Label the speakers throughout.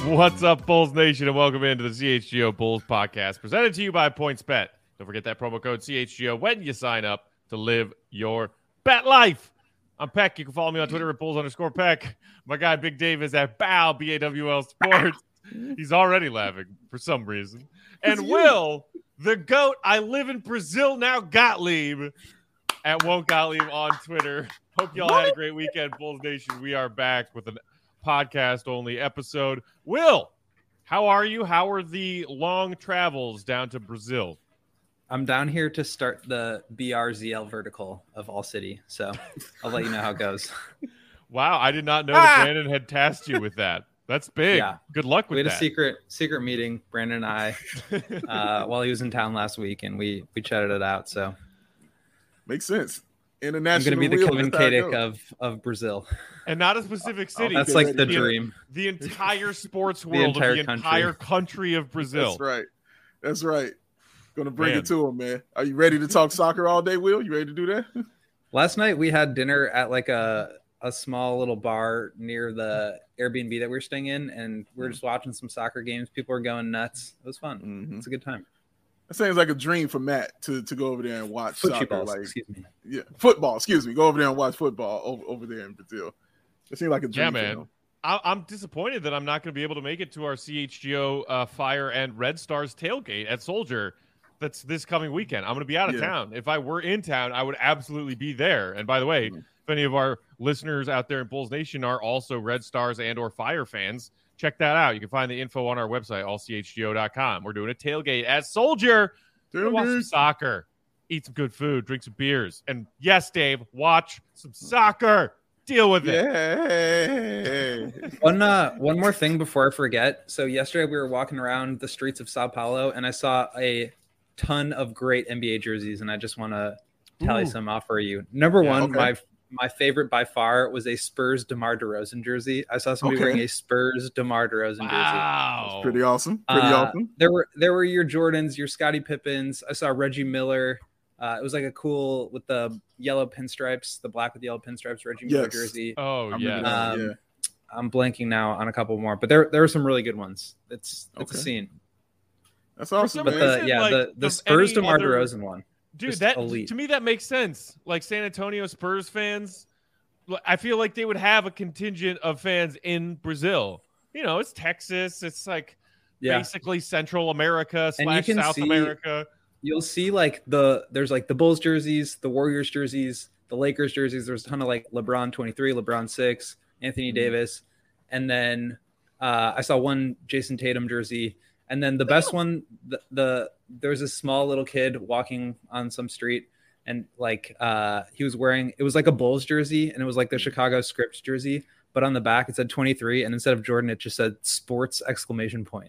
Speaker 1: What's up, Bulls Nation, and welcome into the CHGO Bulls podcast, presented to you by PointsBet. Don't forget that promo code CHGO when you sign up to live your bet life. I'm Peck. You can follow me on Twitter at Bulls_Peck. My guy Big Dave is at BAW, BAWL Sports. He's already laughing for some reason. And Will, the GOAT, I live in Brazil now, Gottlieb, at Won't Gottlieb on Twitter. Hope y'all had a great weekend, Bulls Nation. We are back with an podcast-only episode. Will, how are you? How are the long travels down to Brazil?
Speaker 2: I'm down here to start the BRZL vertical of All City, so I'll let you know how it goes.
Speaker 1: Wow, I did not know that Brandon had tasked you with that. That's big. Yeah. Good luck with that.
Speaker 2: We had a secret meeting, Brandon and I, while he was in town last week, and we chatted it out. So
Speaker 3: makes sense. International.
Speaker 2: I'm going to be the Kevin Kadick of Brazil,
Speaker 1: and not a specific city.
Speaker 2: That's like the dream.
Speaker 1: The entire sports world of the entire country of Brazil.
Speaker 3: That's right. Going to bring it to him, man. Are you ready to talk soccer all day, Will? You ready to do that?
Speaker 2: Last night we had dinner at like a small little bar near the Airbnb that we were staying in, and we were just watching some soccer games. People were going nuts. It was fun. Mm-hmm. It's a good time.
Speaker 3: That sounds like a dream for Matt to go over there and watch soccer.
Speaker 2: Football.
Speaker 3: Excuse me. Go over there and watch football over there in Brazil. It seems like a dream.
Speaker 1: Yeah, man. I'm disappointed that I'm not going to be able to make it to our CHGO Fire and Red Stars tailgate at Soldier. That's this coming weekend. I'm going to be out of town. If I were in town, I would absolutely be there. And by the way, if any of our listeners out there in Bulls Nation are also Red Stars and or Fire fans, check that out. You can find the info on our website, allchgo.com. We're doing a tailgate at Soldier. Watch some soccer, eat some good food, drink some beers. And yes, Dave, watch some soccer. Deal with
Speaker 3: it.
Speaker 2: One more thing before I forget. So yesterday we were walking around the streets of Sao Paulo, and I saw a ton of great NBA jerseys, and I just want to tally some off for you. Number one, my favorite by far was a Spurs DeMar DeRozan jersey. I saw somebody wearing a Spurs DeMar DeRozan jersey.
Speaker 3: That's pretty awesome.
Speaker 2: There were your Jordans, your Scottie Pippens. I saw Reggie Miller. It was like a cool with the yellow pinstripes, the black with yellow pinstripes Reggie Miller jersey.
Speaker 1: Oh yeah.
Speaker 2: I'm blanking now on a couple more, but there were some really good ones. It's a scene.
Speaker 3: That's awesome.
Speaker 2: But the Spurs DeMar DeRozan one.
Speaker 1: Dude, elite. To me that makes sense. Like San Antonio Spurs fans, I feel like they would have a contingent of fans in Brazil. You know, it's Texas. It's like basically Central America / South America.
Speaker 2: You'll see there's like the Bulls jerseys, the Warriors jerseys, the Lakers jerseys. There's a ton of like LeBron 23, LeBron 6, Anthony Davis. And then I saw one Jason Tatum jersey. And then the best one, there's a small little kid walking on some street, and like he was wearing, it was like a Bulls jersey, and it was like the Chicago Scripts jersey, but on the back it said 23, and instead of Jordan it just said sports !
Speaker 1: Wow.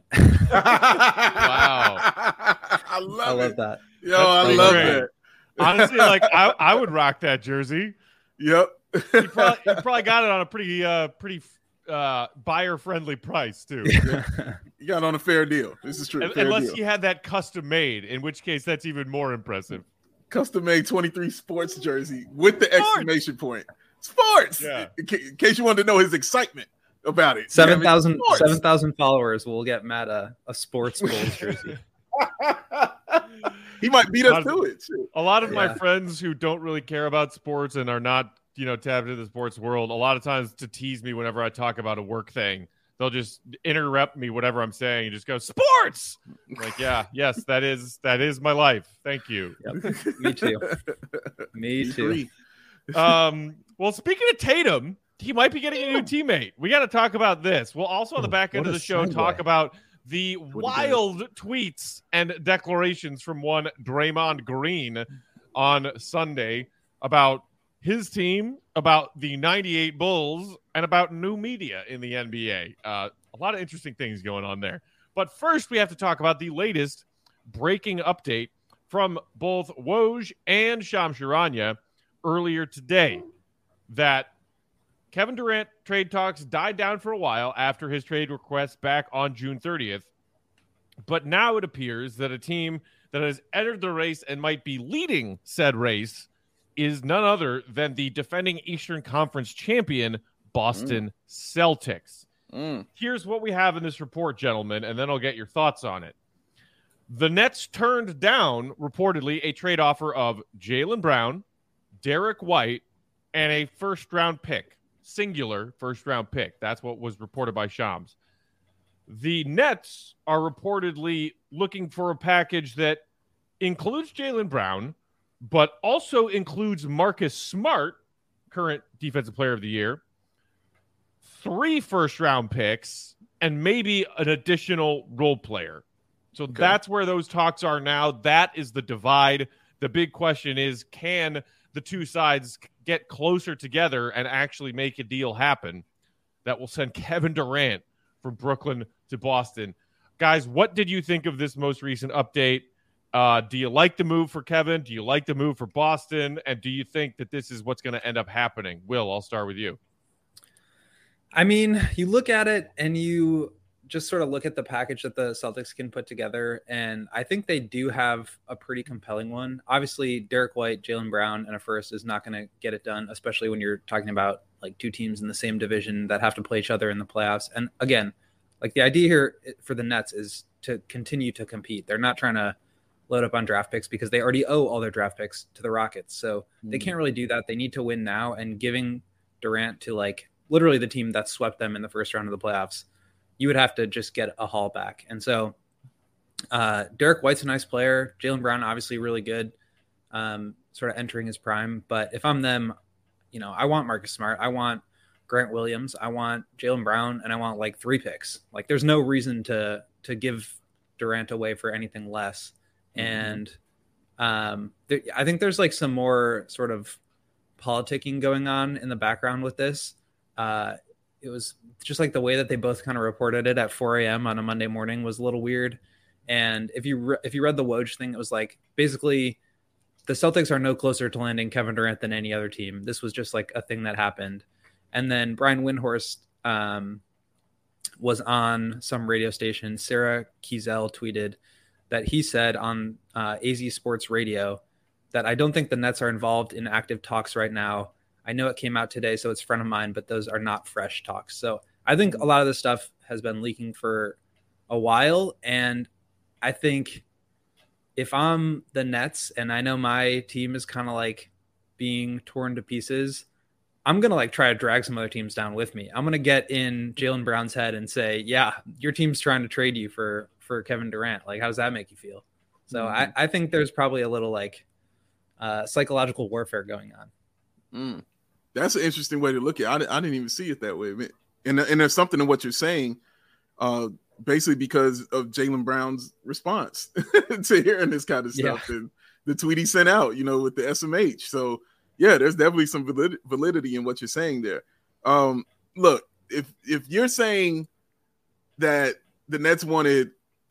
Speaker 3: I love
Speaker 2: that.
Speaker 3: Yo, I love it.
Speaker 1: Honestly, like I would rock that jersey.
Speaker 3: Yep.
Speaker 1: You probably got it on a pretty buyer-friendly price too.
Speaker 3: You got it on a fair deal. This is true.
Speaker 1: Unless you had that custom made, in which case that's even more impressive.
Speaker 3: Custom made 23 sports jersey with the exclamation point. Sports.
Speaker 1: Yeah.
Speaker 3: In case you wanted to know his excitement about it.
Speaker 2: 7,000 followers will get Matt a sports Bulls jersey.
Speaker 3: He might beat us to it.
Speaker 1: A lot of my friends who don't really care about sports and are not, tapped into the sports world, a lot of times to tease me whenever I talk about a work thing, they'll just interrupt me, whatever I'm saying, and just go, sports! I'm like, yes, that is my life. Thank you.
Speaker 2: Yep. Me too. Me too.
Speaker 1: Well, speaking of Tatum, he might be getting a new teammate. We got to talk about this. We'll also on the back end of the show talk about the wild tweets and declarations from one Draymond Green on Sunday about his team, about the 98 Bulls, and about new media in the NBA. A lot of interesting things going on there. But first, we have to talk about the latest breaking update from both Woj and Shams Charania earlier today, that Kevin Durant trade talks died down for a while after his trade request back on June 30th. But now it appears that a team that has entered the race and might be leading said race is none other than the defending Eastern Conference champion Boston Celtics. Here's what we have in this report, gentlemen, and then I'll get your thoughts on it. The Nets turned down, reportedly, a trade offer of Jaylen Brown, Derek White, and a first-round pick, singular first-round pick. That's what was reported by Shams. The Nets are reportedly looking for a package that includes Jaylen Brown, but also includes Marcus Smart, current Defensive Player of the Year, 3 first-round picks, and maybe an additional role player. So that's where those talks are now. That is the divide. The big question is, can the two sides get closer together and actually make a deal happen that will send Kevin Durant from Brooklyn to Boston? Guys, what did you think of this most recent update? Do you like the move for Kevin? Do you like the move for Boston? And do you think that this is what's going to end up happening? Will, I'll start with you.
Speaker 2: I mean, you look at it and you just sort of look at the package that the Celtics can put together, and I think they do have a pretty compelling one. Obviously, Derek White, Jaylen Brown, and a first is not going to get it done, especially when you're talking about like two teams in the same division that have to play each other in the playoffs. And again, like the idea here for the Nets is to continue to compete. They're not trying to load up on draft picks because they already owe all their draft picks to the Rockets. So they can't really do that. They need to win now, and giving Durant to like literally the team that swept them in the first round of the playoffs, you would have to just get a haul back. And so Derek White's a nice player. Jaylen Brown, obviously really good, sort of entering his prime. But if I'm them, you know, I want Marcus Smart. I want Grant Williams. I want Jaylen Brown, and I want like 3 picks. Like there's no reason to give Durant away for anything less. And I think there's like some more sort of politicking going on in the background with this. It was just like the way that they both kind of reported it at 4 a.m. on a Monday morning was a little weird. And if you read the Woj thing, it was like basically the Celtics are no closer to landing Kevin Durant than any other team. This was just like a thing that happened. And then Brian Windhorst was on some radio station. Sarah Kiesel tweeted that he said on AZ Sports Radio that I don't think the Nets are involved in active talks right now. I know it came out today, so it's front of mind, but those are not fresh talks. So I think a lot of this stuff has been leaking for a while. And I think if I'm the Nets and I know my team is kind of like being torn to pieces, I'm going to like try to drag some other teams down with me. I'm going to get in Jaylen Brown's head and say, yeah, your team's trying to trade you for Kevin Durant. Like, how does that make you feel? So I think there's probably a little like psychological warfare going on.
Speaker 3: That's an interesting way to look at it. I didn't even see it that way. And there's something in what you're saying, basically because of Jaylen Brown's response to hearing this kind of stuff and the tweet he sent out, you know, with the SMH. So, yeah, there's definitely some validity in what you're saying there. Look, if you're saying that the Nets wanted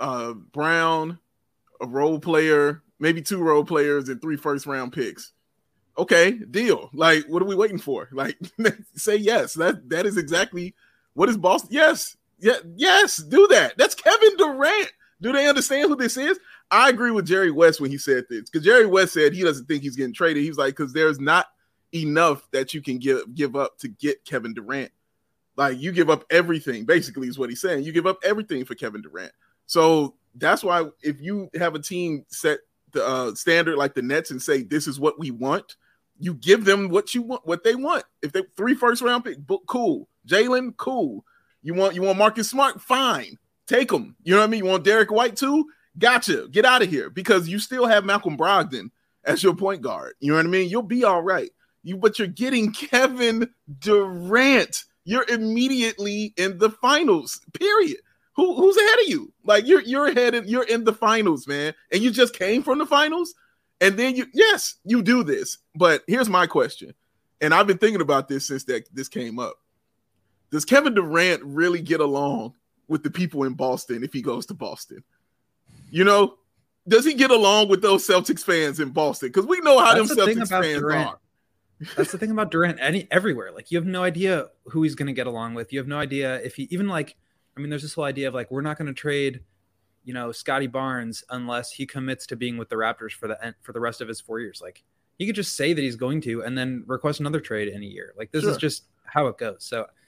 Speaker 3: Brown, a role player, maybe 2 role players, and 3 first-round picks, okay, deal. Like, what are we waiting for? Like, say yes. That is exactly what is Boston. Yes. Yeah, yes, do that. That's Kevin Durant. Do they understand who this is? I agree with Jerry West when he said this, because Jerry West said he doesn't think he's getting traded. He was like, because there's not enough that you can give up to get Kevin Durant. Like, you give up everything, basically, is what he's saying. You give up everything for Kevin Durant. So that's why if you have a team set the standard like the Nets and say, this is what we want, you give them what you want, what they want. If they 3 first-round picks, cool. Jaylen, cool. You want Marcus Smart? Fine. Take them. You know what I mean? You want Derek White too? Gotcha. Get out of here, because you still have Malcolm Brogdon as your point guard. You know what I mean? You'll be all right. But you're getting Kevin Durant. You're immediately in the finals, period. Who's ahead of you? Like, you're ahead and you're in the finals, man. And you just came from the finals. And then you do this. But here's my question. And I've been thinking about this since this came up. Does Kevin Durant really get along with the people in Boston if he goes to Boston? You know, does he get along with those Celtics fans in Boston? Because we know how them Celtics fans are.
Speaker 2: That's the thing about Durant everywhere. Like, you have no idea who he's going to get along with. You have no idea if he even like, I mean, there's this whole idea of like, we're not going to trade, you know, Scotty Barnes unless he commits to being with the Raptors for the rest of his 4 years. Like, he could just say that he's going to and then request another trade in a year. Like, this is just how it goes. So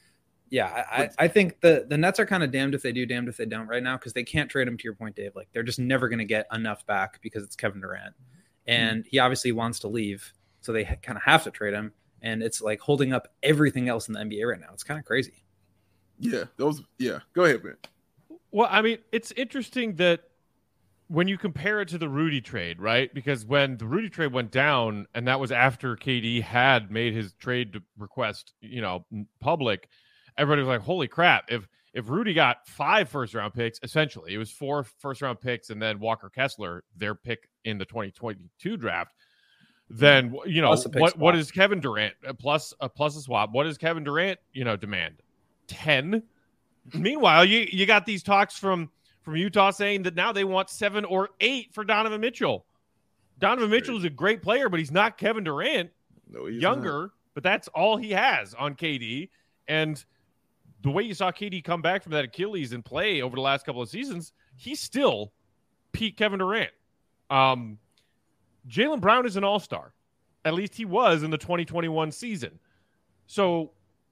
Speaker 2: Yeah, I think the Nets are kind of damned if they do, damned if they don't right now, because they can't trade him, to your point, Dave. Like, they're just never going to get enough back because it's Kevin Durant. And he obviously wants to leave, so they kind of have to trade him. And it's like holding up everything else in the NBA right now. It's kind of crazy.
Speaker 3: Yeah, go ahead, man.
Speaker 1: Well, I mean, it's interesting that when you compare it to the Rudy trade, right? Because when the Rudy trade went down, and that was after KD had made his trade request, public, everybody was like, holy crap. If Rudy got 5 first-round picks, essentially, it was 4 first-round picks and then Walker Kessler, their pick in the 2022 draft, then, what is Kevin Durant, plus a swap, what does Kevin Durant, demand? 10? Meanwhile, you got these talks from Utah saying that now they want 7 or 8 for Donovan Mitchell. Donovan Mitchell is a great player, but he's not Kevin Durant.
Speaker 3: No, he's
Speaker 1: younger,
Speaker 3: not.
Speaker 1: But that's all he has on KD. And the way you saw KD come back from that Achilles and play over the last couple of seasons, he's still peak Kevin Durant. Jaylen Brown is an all-star. At least he was in the 2021 season. So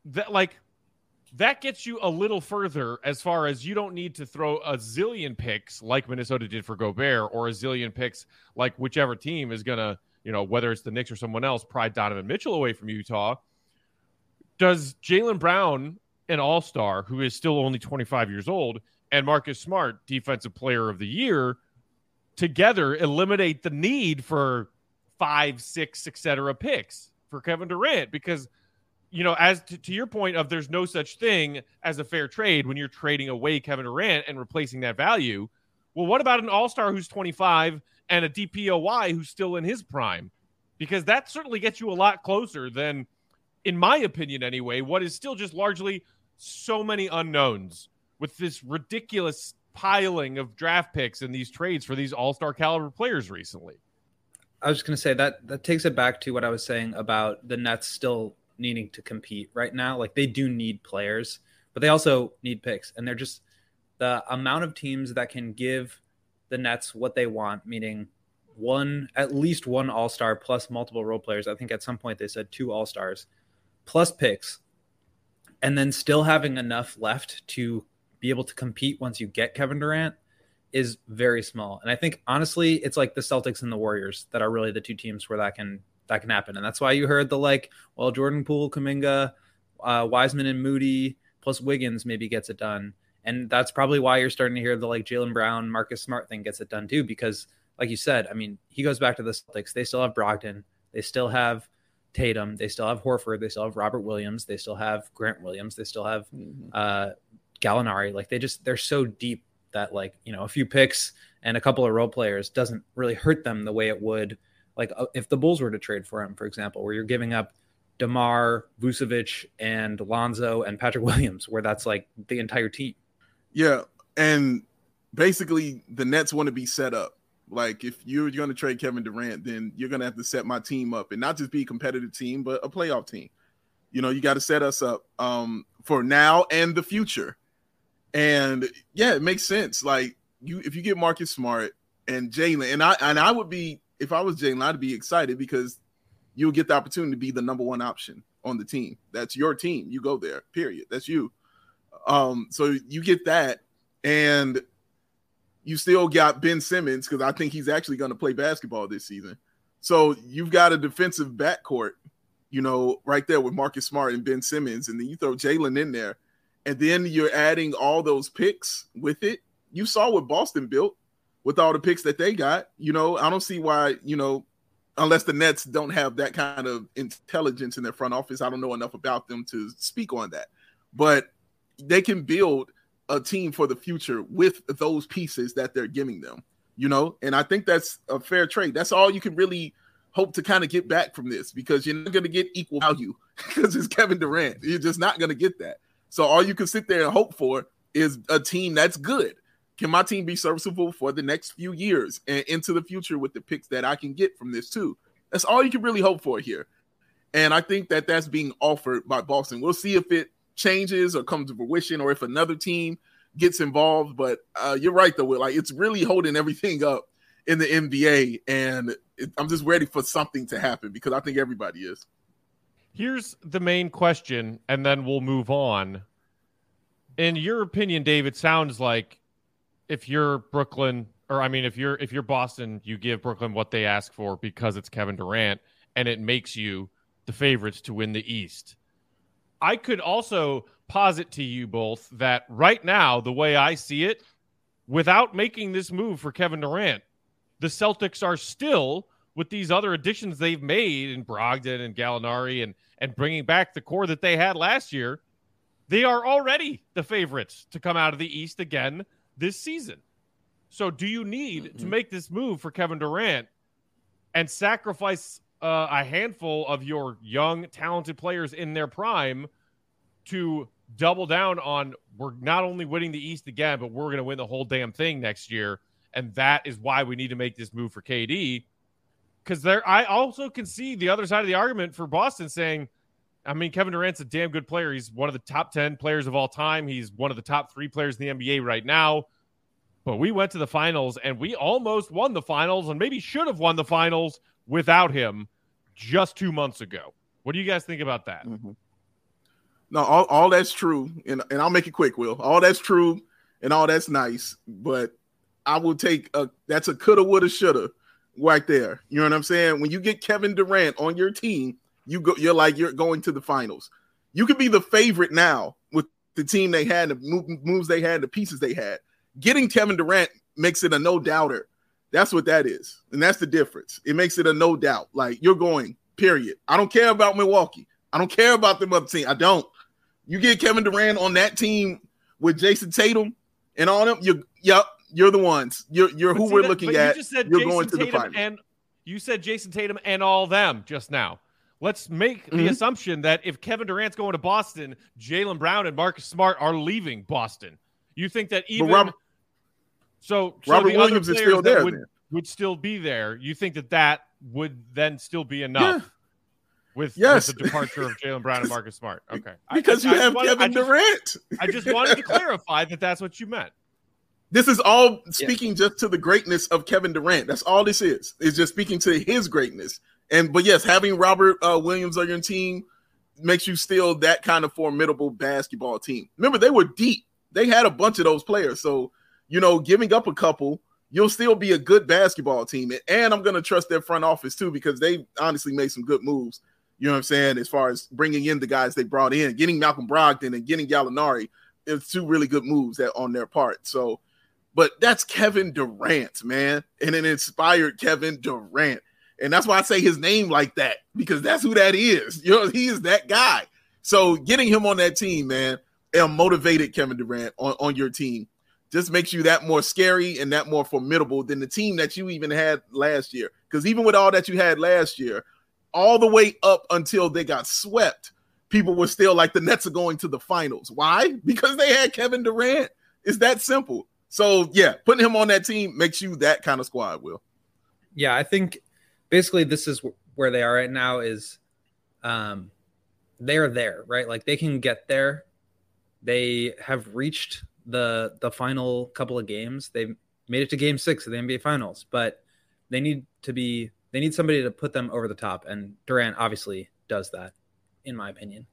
Speaker 1: that gets you a little further as far as you don't need to throw a zillion picks like Minnesota did for Gobert, or a zillion picks like whichever team is going to, whether it's the Knicks or someone else, pry Donovan Mitchell away from Utah. Does Jaylen Brown, an all-star who is still only 25 years old, and Marcus Smart, defensive player of the year, together eliminate the need for 5, 6, etc. picks for Kevin Durant? Because as to your point of there's no such thing as a fair trade when you're trading away Kevin Durant and replacing that value. Well, what about an all-star who's 25 and a DPOY who's still in his prime? Because that certainly gets you a lot closer than, in my opinion anyway, what is still just largely so many unknowns with this ridiculous piling of draft picks and these trades for these all-star caliber players recently.
Speaker 2: I was just going to say that takes it back to what I was saying about the Nets still needing to compete right now. Like, they do need players, but they also need picks. And they're just, the amount of teams that can give the Nets what they want, meaning at least one all-star plus multiple role players. I think at some point they said 2 all-stars plus picks, and then still having enough left to be able to compete once you get Kevin Durant is very small. And I think, honestly, it's like the Celtics and the Warriors that are really the 2 teams where that can happen. And that's why you heard Jordan Poole, Kuminga, Wiseman and Moody plus Wiggins maybe gets it done. And that's probably why you're starting to hear the Jaylen Brown, Marcus Smart thing gets it done too, because like you said, I mean, he goes back to the Celtics. They still have Brogdon. They still have Tatum. They still have Horford. They still have Robert Williams. They still have Grant Williams. They still have Gallinari. They're so deep that a few picks and a couple of role players doesn't really hurt them the way it would if the Bulls were to trade for him, for example, where you're giving up DeMar, Vucevic, and Lonzo and Patrick Williams, where that's the entire team.
Speaker 3: Yeah, and basically the Nets want to be set up. If you're going to trade Kevin Durant, then you're going to have to set my team up, and not just be a competitive team, but a playoff team. You got to set us up for now and the future. And yeah, it makes sense. If you get Marcus Smart and Jaylen, and I would be, if I was Jaylen, I'd be excited because you'll get the opportunity to be the number 1 option on the team. That's your team. You go there, period. That's you. So you get that, and you still got Ben Simmons, because I think he's actually going to play basketball this season. So you've got a defensive backcourt, right there with Marcus Smart and Ben Simmons, and then you throw Jaylen in there, and then you're adding all those picks with it. You saw what Boston built with all the picks that they got. I don't see why, unless the Nets don't have that kind of intelligence in their front office. I don't know enough about them to speak on that. But they can build a team for the future with those pieces that they're giving them, and I think that's a fair trade. That's all you can really hope to kind of get back from this, because you're not going to get equal value because it's Kevin Durant. You're just not going to get that. So all you can sit there and hope for is a team that's good. Can my team be serviceable for the next few years and into the future with the picks that I can get from this too? That's all you can really hope for here. And I think that that's being offered by Boston. We'll see if it changes or comes to fruition, or if another team gets involved. But you're right, though, Will. It's really holding everything up in the NBA. And I'm just ready for something to happen, because I think everybody is.
Speaker 1: Here's the main question, and then we'll move on. In your opinion, Dave, it sounds like if you're Brooklyn, or I mean, if you're Boston, you give Brooklyn what they ask for because it's Kevin Durant, and it makes you the favorites to win the East. I could also posit to you both that right now, the way I see it, without making this move for Kevin Durant, the Celtics are still, with these other additions they've made in Brogdon and Gallinari and bringing back the core that they had last year, they are already the favorites to come out of the East again this season. So do you need to make this move for Kevin Durant and sacrifice a handful of your young, talented players in their prime to double down on, we're not only winning the East again, but we're going to win the whole damn thing next year? And that is why we need to make this move for KD. Because I also can see the other side of the argument for Boston saying, I mean, Kevin Durant's a damn good player. He's one of the top 10 players of all time. He's one of the top 3 players in the NBA right now. But we went to the finals, and we almost won the finals, and maybe should have won the finals without him just 2 months ago. What do you guys think about that?
Speaker 3: Mm-hmm. No, all that's true, and I'll make it quick, Will. All that's true, and all that's nice, but I will take that's a coulda, woulda, shoulda right there. You know what I'm saying? When you get Kevin Durant on your team, you're like you're going to the finals. You could be the favorite now with the team they had, the moves they had, the pieces they had. Getting Kevin Durant makes it a no doubter. That's what that is, and that's the difference. It makes it a no doubt. Like, you're going, period. I don't care about Milwaukee. I don't care about them other team. I don't. You get Kevin Durant on that team with Jason Tatum and all them, you're the ones. You're who we're looking at. You're going to the finals.
Speaker 1: And you said Jason Tatum and all them just now. Let's make the assumption that if Kevin Durant's going to Boston, Jaylen Brown and Marcus Smart are leaving Boston. You think that even Robert Williams is still there, would still be there? You think that would then still be enough with the departure of Jaylen Brown and Marcus Smart? Okay,
Speaker 3: because you have Kevin Durant.
Speaker 1: I just wanted to clarify that that's what you meant.
Speaker 3: This is all speaking just to the greatness of Kevin Durant. That's all this is. It's just speaking to his greatness. But yes, having Robert Williams on your team makes you still that kind of formidable basketball team. Remember, they were deep. They had a bunch of those players. So, giving up a couple, you'll still be a good basketball team. And I'm going to trust their front office too, because they honestly made some good moves. You know what I'm saying? As far as bringing in the guys they brought in, getting Malcolm Brogdon and getting Gallinari, it's 2 really good moves on their part. So, but that's Kevin Durant, man. And an inspired Kevin Durant. And that's why I say his name like that, because that's who that is. He is that guy. So getting him on that team, man, a motivated Kevin Durant on your team just makes you that more scary and that more formidable than the team that you even had last year. Because even with all that you had last year, all the way up until they got swept, people were still like, the Nets are going to the finals. Why? Because they had Kevin Durant. It's that simple. So, yeah, putting him on that team makes you that kind of squad, Will.
Speaker 2: Yeah, I think basically this is where they are right now is they're there, right? Like, they can get there. They have reached the final couple of games. They've made it to game 6 of the NBA Finals, but they need somebody to put them over the top. And Durant obviously does that, in my opinion.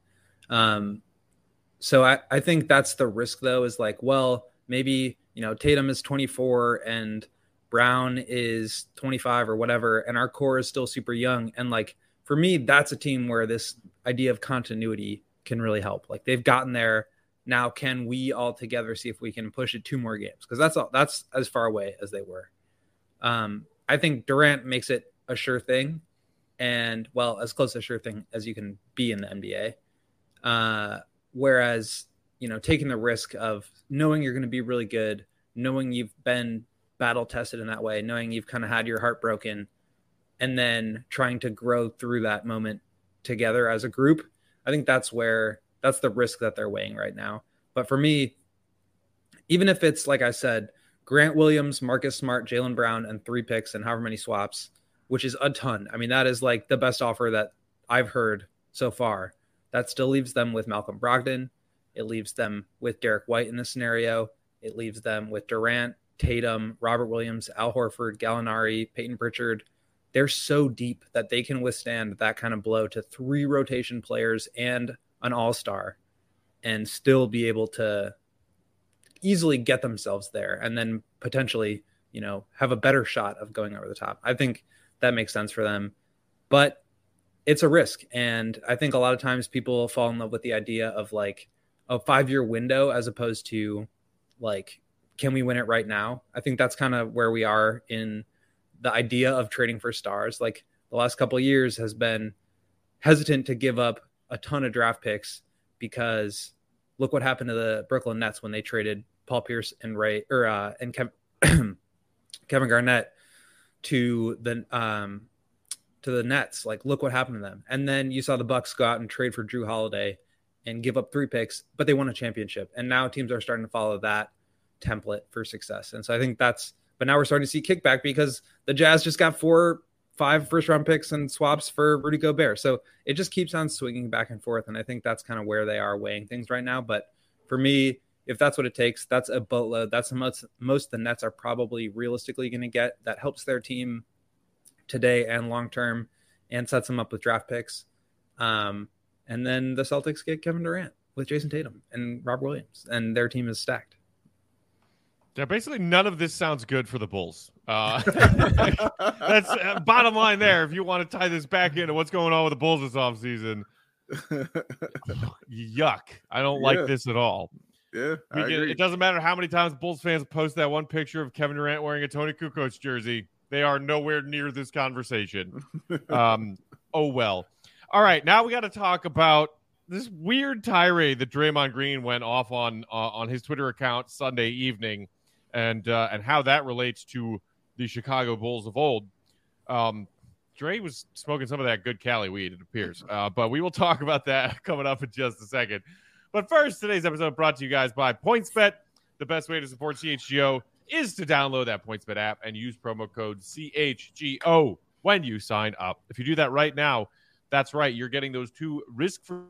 Speaker 2: So I think that's the risk, though, is like, well, maybe, Tatum is 24 and Brown is 25 or whatever, and our core is still super young. And like, for me, that's a team where this idea of continuity can really help. Like, they've gotten there. Now, can we all together see if we can push it 2 more games? Because that's as far away as they were. I think Durant makes it a sure thing, and, well, as close to a sure thing as you can be in the NBA. Whereas, taking the risk of knowing you're going to be really good, knowing you've been battle tested in that way, knowing you've kind of had your heart broken, and then trying to grow through that moment together as a group. I think that's the risk that they're weighing right now. But for me, even if it's, like I said, Grant Williams, Marcus Smart, Jaylen Brown, and 3 picks and however many swaps, which is a ton. I mean, that is like the best offer that I've heard so far. That still leaves them with Malcolm Brogdon. It leaves them with Derek White in this scenario. It leaves them with Durant, Tatum, Robert Williams, Al Horford, Gallinari, Peyton Pritchard. They're so deep that they can withstand that kind of blow to 3 rotation players and an all-star and still be able to easily get themselves there and then potentially, have a better shot of going over the top. I think that makes sense for them, but it's a risk. And I think a lot of times people fall in love with the idea of like a 5-year window as opposed to like, can we win it right now? I think that's kind of where we are in the idea of trading for stars. Like the last couple of years has been hesitant to give up a ton of draft picks because look what happened to the Brooklyn Nets when they traded Paul Pierce and Kevin Garnett to the Nets. Like, look what happened to them. And then you saw the Bucks go out and trade for Drew Holiday and give up 3 picks, but they won a championship. And now teams are starting to follow that template for success. And so I think but now we're starting to see kickback because the Jazz just got 4-5 first-round picks and swaps for Rudy Gobert. So it just keeps on swinging back and forth. And I think that's kind of where they are weighing things right now. But for me, if that's what it takes, that's a boatload. That's the most the Nets are probably realistically going to get. That helps their team today and long-term and sets them up with draft picks. And then the Celtics get Kevin Durant with Jason Tatum and Rob Williams, and their team is stacked.
Speaker 1: Yeah, basically none of this sounds good for the Bulls. That's bottom line there. If you want to tie this back into what's going on with the Bulls this offseason, yuck. I don't like this at all.
Speaker 3: Yeah, I agree.
Speaker 1: It doesn't matter how many times Bulls fans post that one picture of Kevin Durant wearing a Tony Kukoc jersey. They are nowhere near this conversation. Oh, well. All right, now we got to talk about this weird tirade that Draymond Green went off on his Twitter account Sunday evening, and how that relates to the Chicago Bulls of old. Dre was smoking some of that good Cali weed, it appears. But we will talk about that coming up in just a second. But first, today's episode brought to you guys by PointsBet. The best way to support CHGO is to download that PointsBet app and use promo code CHGO when you sign up. If you do that right now, that's right, you're getting those 2 risk-free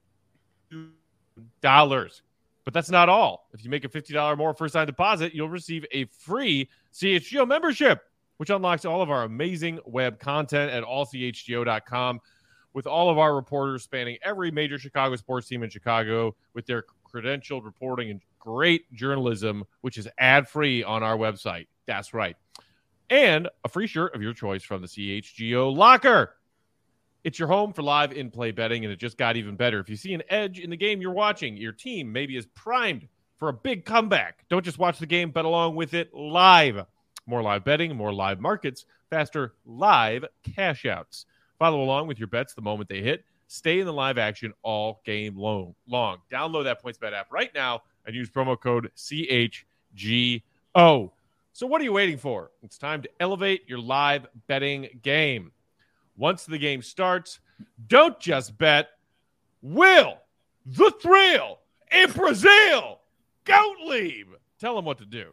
Speaker 1: $. But that's not all. If you make a $50 more first-time deposit, you'll receive a free CHGO membership, which unlocks all of our amazing web content at allchgo.com, with all of our reporters spanning every major Chicago sports team in Chicago with their credentialed reporting and great journalism, which is ad-free on our website. That's right. And a free shirt of your choice from the CHGO Locker. It's your home for live in-play betting, and it just got even better. If you see an edge in the game you're watching, your team maybe is primed for a big comeback. Don't just watch the game, bet along with it live. More live betting, more live markets, faster live cash outs. Follow along with your bets the moment they hit. Stay in the live action all game long. Download that PointsBet app right now and use promo code CHGO. So what are you waiting for? It's time to elevate your live betting game. Once the game starts, don't just bet. Will the thrill in Brazil Gottlieb tell them what to do?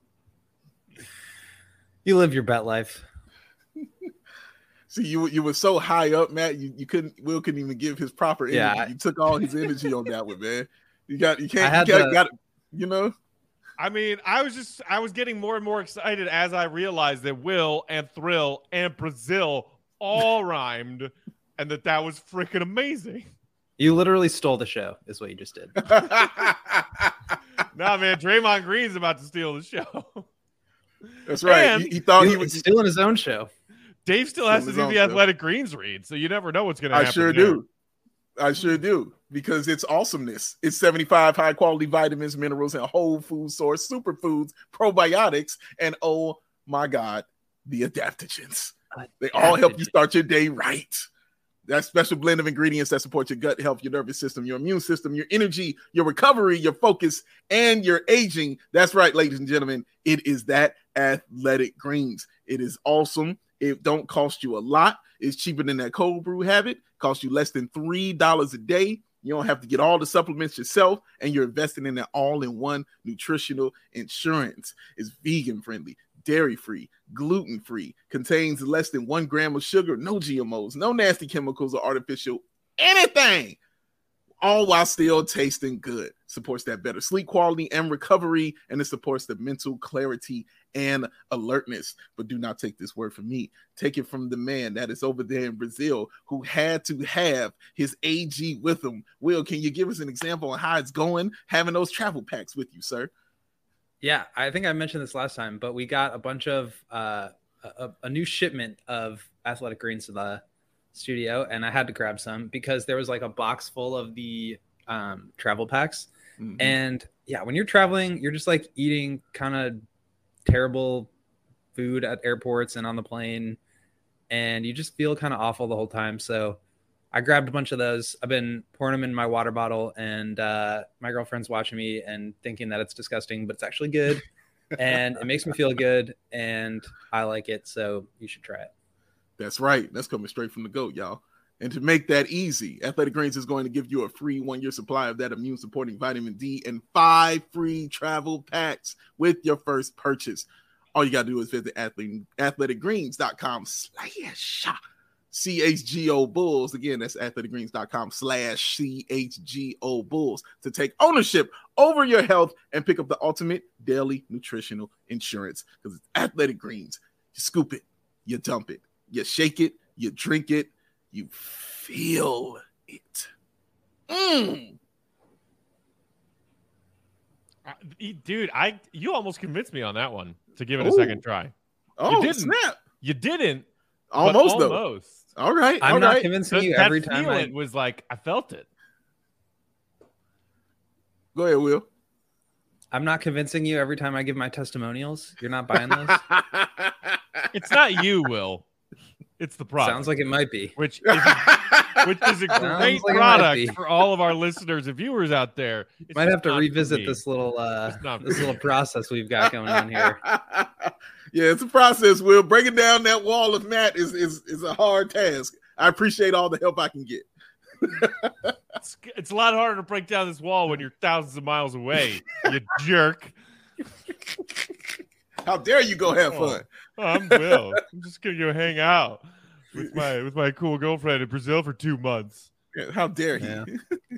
Speaker 2: You live your bet life.
Speaker 3: See, you were so high up, Matt. Will couldn't even give his proper energy.
Speaker 2: Yeah.
Speaker 3: You took all his energy on that one, man. Got you know.
Speaker 1: I mean, I was getting more and more excited as I realized that Will and Thrill and Brazil all rhymed, and that was freaking amazing.
Speaker 2: You literally stole the show, is what you just did.
Speaker 1: Nah, man, Draymond Green's about to steal the show.
Speaker 3: That's right.
Speaker 1: And
Speaker 3: he thought he was
Speaker 2: stealing his own show.
Speaker 1: Dave still has to do the Athletic Greens read, so you never know what's going to happen.
Speaker 3: I sure do, because it's awesomeness. It's 75 high-quality vitamins, minerals, and whole food source, superfoods, probiotics, and oh my God, the adaptogens. They all help you start your day right. That special blend of ingredients that support your gut health, your nervous system, your immune system, your energy, your recovery, your focus, and your aging. That's right, ladies and gentlemen. It is that Athletic Greens. It is awesome. It don't cost you a lot. It's cheaper than that cold brew habit. Costs you less than $3 a day. You don't have to get all the supplements yourself, and you're investing in an all-in-one nutritional insurance. It's vegan-friendly, dairy-free, gluten-free, contains less than 1 gram of sugar, no GMOs, no nasty chemicals or artificial anything, all while still tasting good. Supports that better sleep quality and recovery, and it supports the mental clarity and alertness. But do not take this word from me. Take it from the man that is over there in Brazil who had to have his AG with him. Will, can you give us an example on how it's going having those travel packs with you, sir?
Speaker 2: Yeah, I think I mentioned this last time, but we got a bunch of a new shipment of Athletic Greens to the studio, and I had to grab some because there was like a box full of the travel packs. Mm-hmm. And yeah, when you're traveling, you're just like eating kind of terrible food at airports and on the plane, and you just feel kind of awful the whole time. So I grabbed a bunch of those. I've been pouring them in my water bottle, and my girlfriend's watching me and thinking that it's disgusting, but it's actually good. And it makes me feel good, and I like it. So you should try it.
Speaker 3: That's right. That's coming straight from the GOAT, y'all. And to make that easy, Athletic Greens is going to give you a free 1-year supply of that immune-supporting vitamin D and 5 free travel packs with your first purchase. All you got to do is visit athleticgreens.com/CHGO Bulls. Again, that's athleticgreens.com/CHGO Bulls to take ownership over your health and pick up the ultimate daily nutritional insurance. Because it's Athletic Greens. You scoop it, you dump it, you shake it, you drink it, you feel it.
Speaker 1: Dude, you almost convinced me on that one to give it a second try.
Speaker 3: Oh, snap.
Speaker 1: You didn't.
Speaker 3: Almost, though. All right.
Speaker 2: I'm not convincing you every time.
Speaker 1: It was like, I felt it.
Speaker 3: Go ahead, Will.
Speaker 2: I'm not convincing you every time I give my testimonials. You're not buying those?
Speaker 1: It's not you, Will. It's the product.
Speaker 2: Sounds like it might be.
Speaker 1: Which is a great product for all of our listeners and viewers out there.
Speaker 2: Might have to revisit this little process we've got going on here.
Speaker 3: Yeah, it's a process, Will. Breaking down that wall of Matt is a hard task. I appreciate all the help I can get.
Speaker 1: It's a lot harder to break down this wall when you're thousands of miles away, you jerk.
Speaker 3: How dare you go have fun?
Speaker 1: I'm Will. I'm just gonna go hang out with my cool girlfriend in Brazil for 2 months.
Speaker 3: Yeah, how dare he?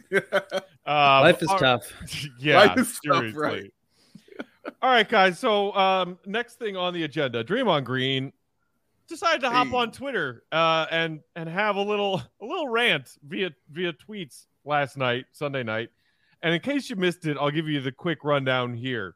Speaker 2: Life is tough.
Speaker 1: Yeah,
Speaker 3: life is
Speaker 1: seriously.
Speaker 3: tough, right?
Speaker 1: All right, guys. So next thing on the agenda, Draymond Green decided to hop on Twitter and have a little rant via tweets last night, Sunday night. And in case you missed it, I'll give you the quick rundown here.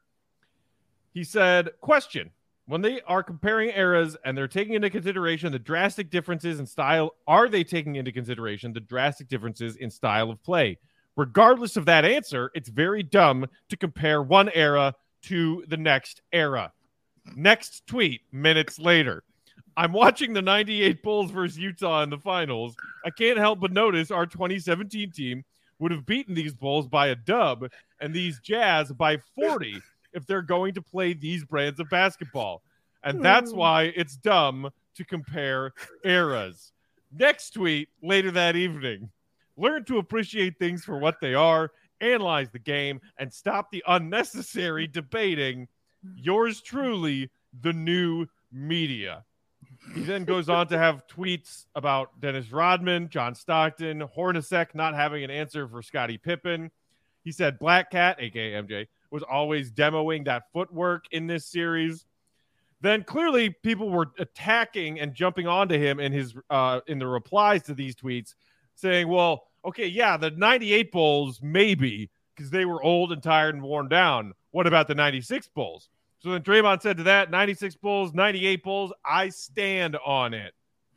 Speaker 1: He said, question, when they are comparing eras and they're taking into consideration the drastic differences in style, are they taking into consideration the drastic differences in style of play? Regardless of that answer, it's very dumb to compare one era to the next era. Next tweet, minutes later. I'm watching the 98 Bulls versus Utah in the finals. I can't help but notice our 2017 team would have beaten these Bulls by a dub and these Jazz by 40 if they're going to play these brands of basketball. And that's why it's dumb to compare eras. Next tweet, later that evening. Learn to appreciate things for what they are, analyze the game, and stop the unnecessary debating. Yours truly, the new media. He then goes on to have tweets about Dennis Rodman, John Stockton, Hornacek not having an answer for Scottie Pippen. He said Black Cat, a.k.a. MJ, was always demoing that footwork in this series. Then clearly people were attacking and jumping onto him in his in the replies to these tweets, saying, well, okay, yeah, the 98 Bulls, maybe, because they were old and tired and worn down. What about the 96 Bulls? So then Draymond said to that, 96 Bulls, 98 Bulls, I stand on it.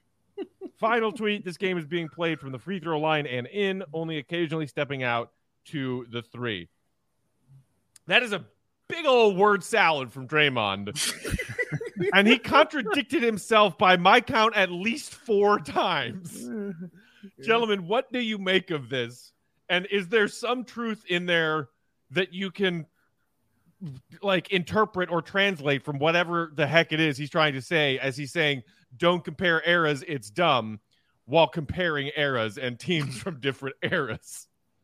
Speaker 1: Final tweet, this game is being played from the free throw line and in, only occasionally stepping out to the three. That is a big old word salad from Draymond. And he contradicted himself by my count at least 4 times. Gentlemen, what do you make of this? And is there some truth in there that you can like interpret or translate from whatever the heck it is he's trying to say, as he's saying, don't compare eras, it's dumb, while comparing eras and teams from different eras?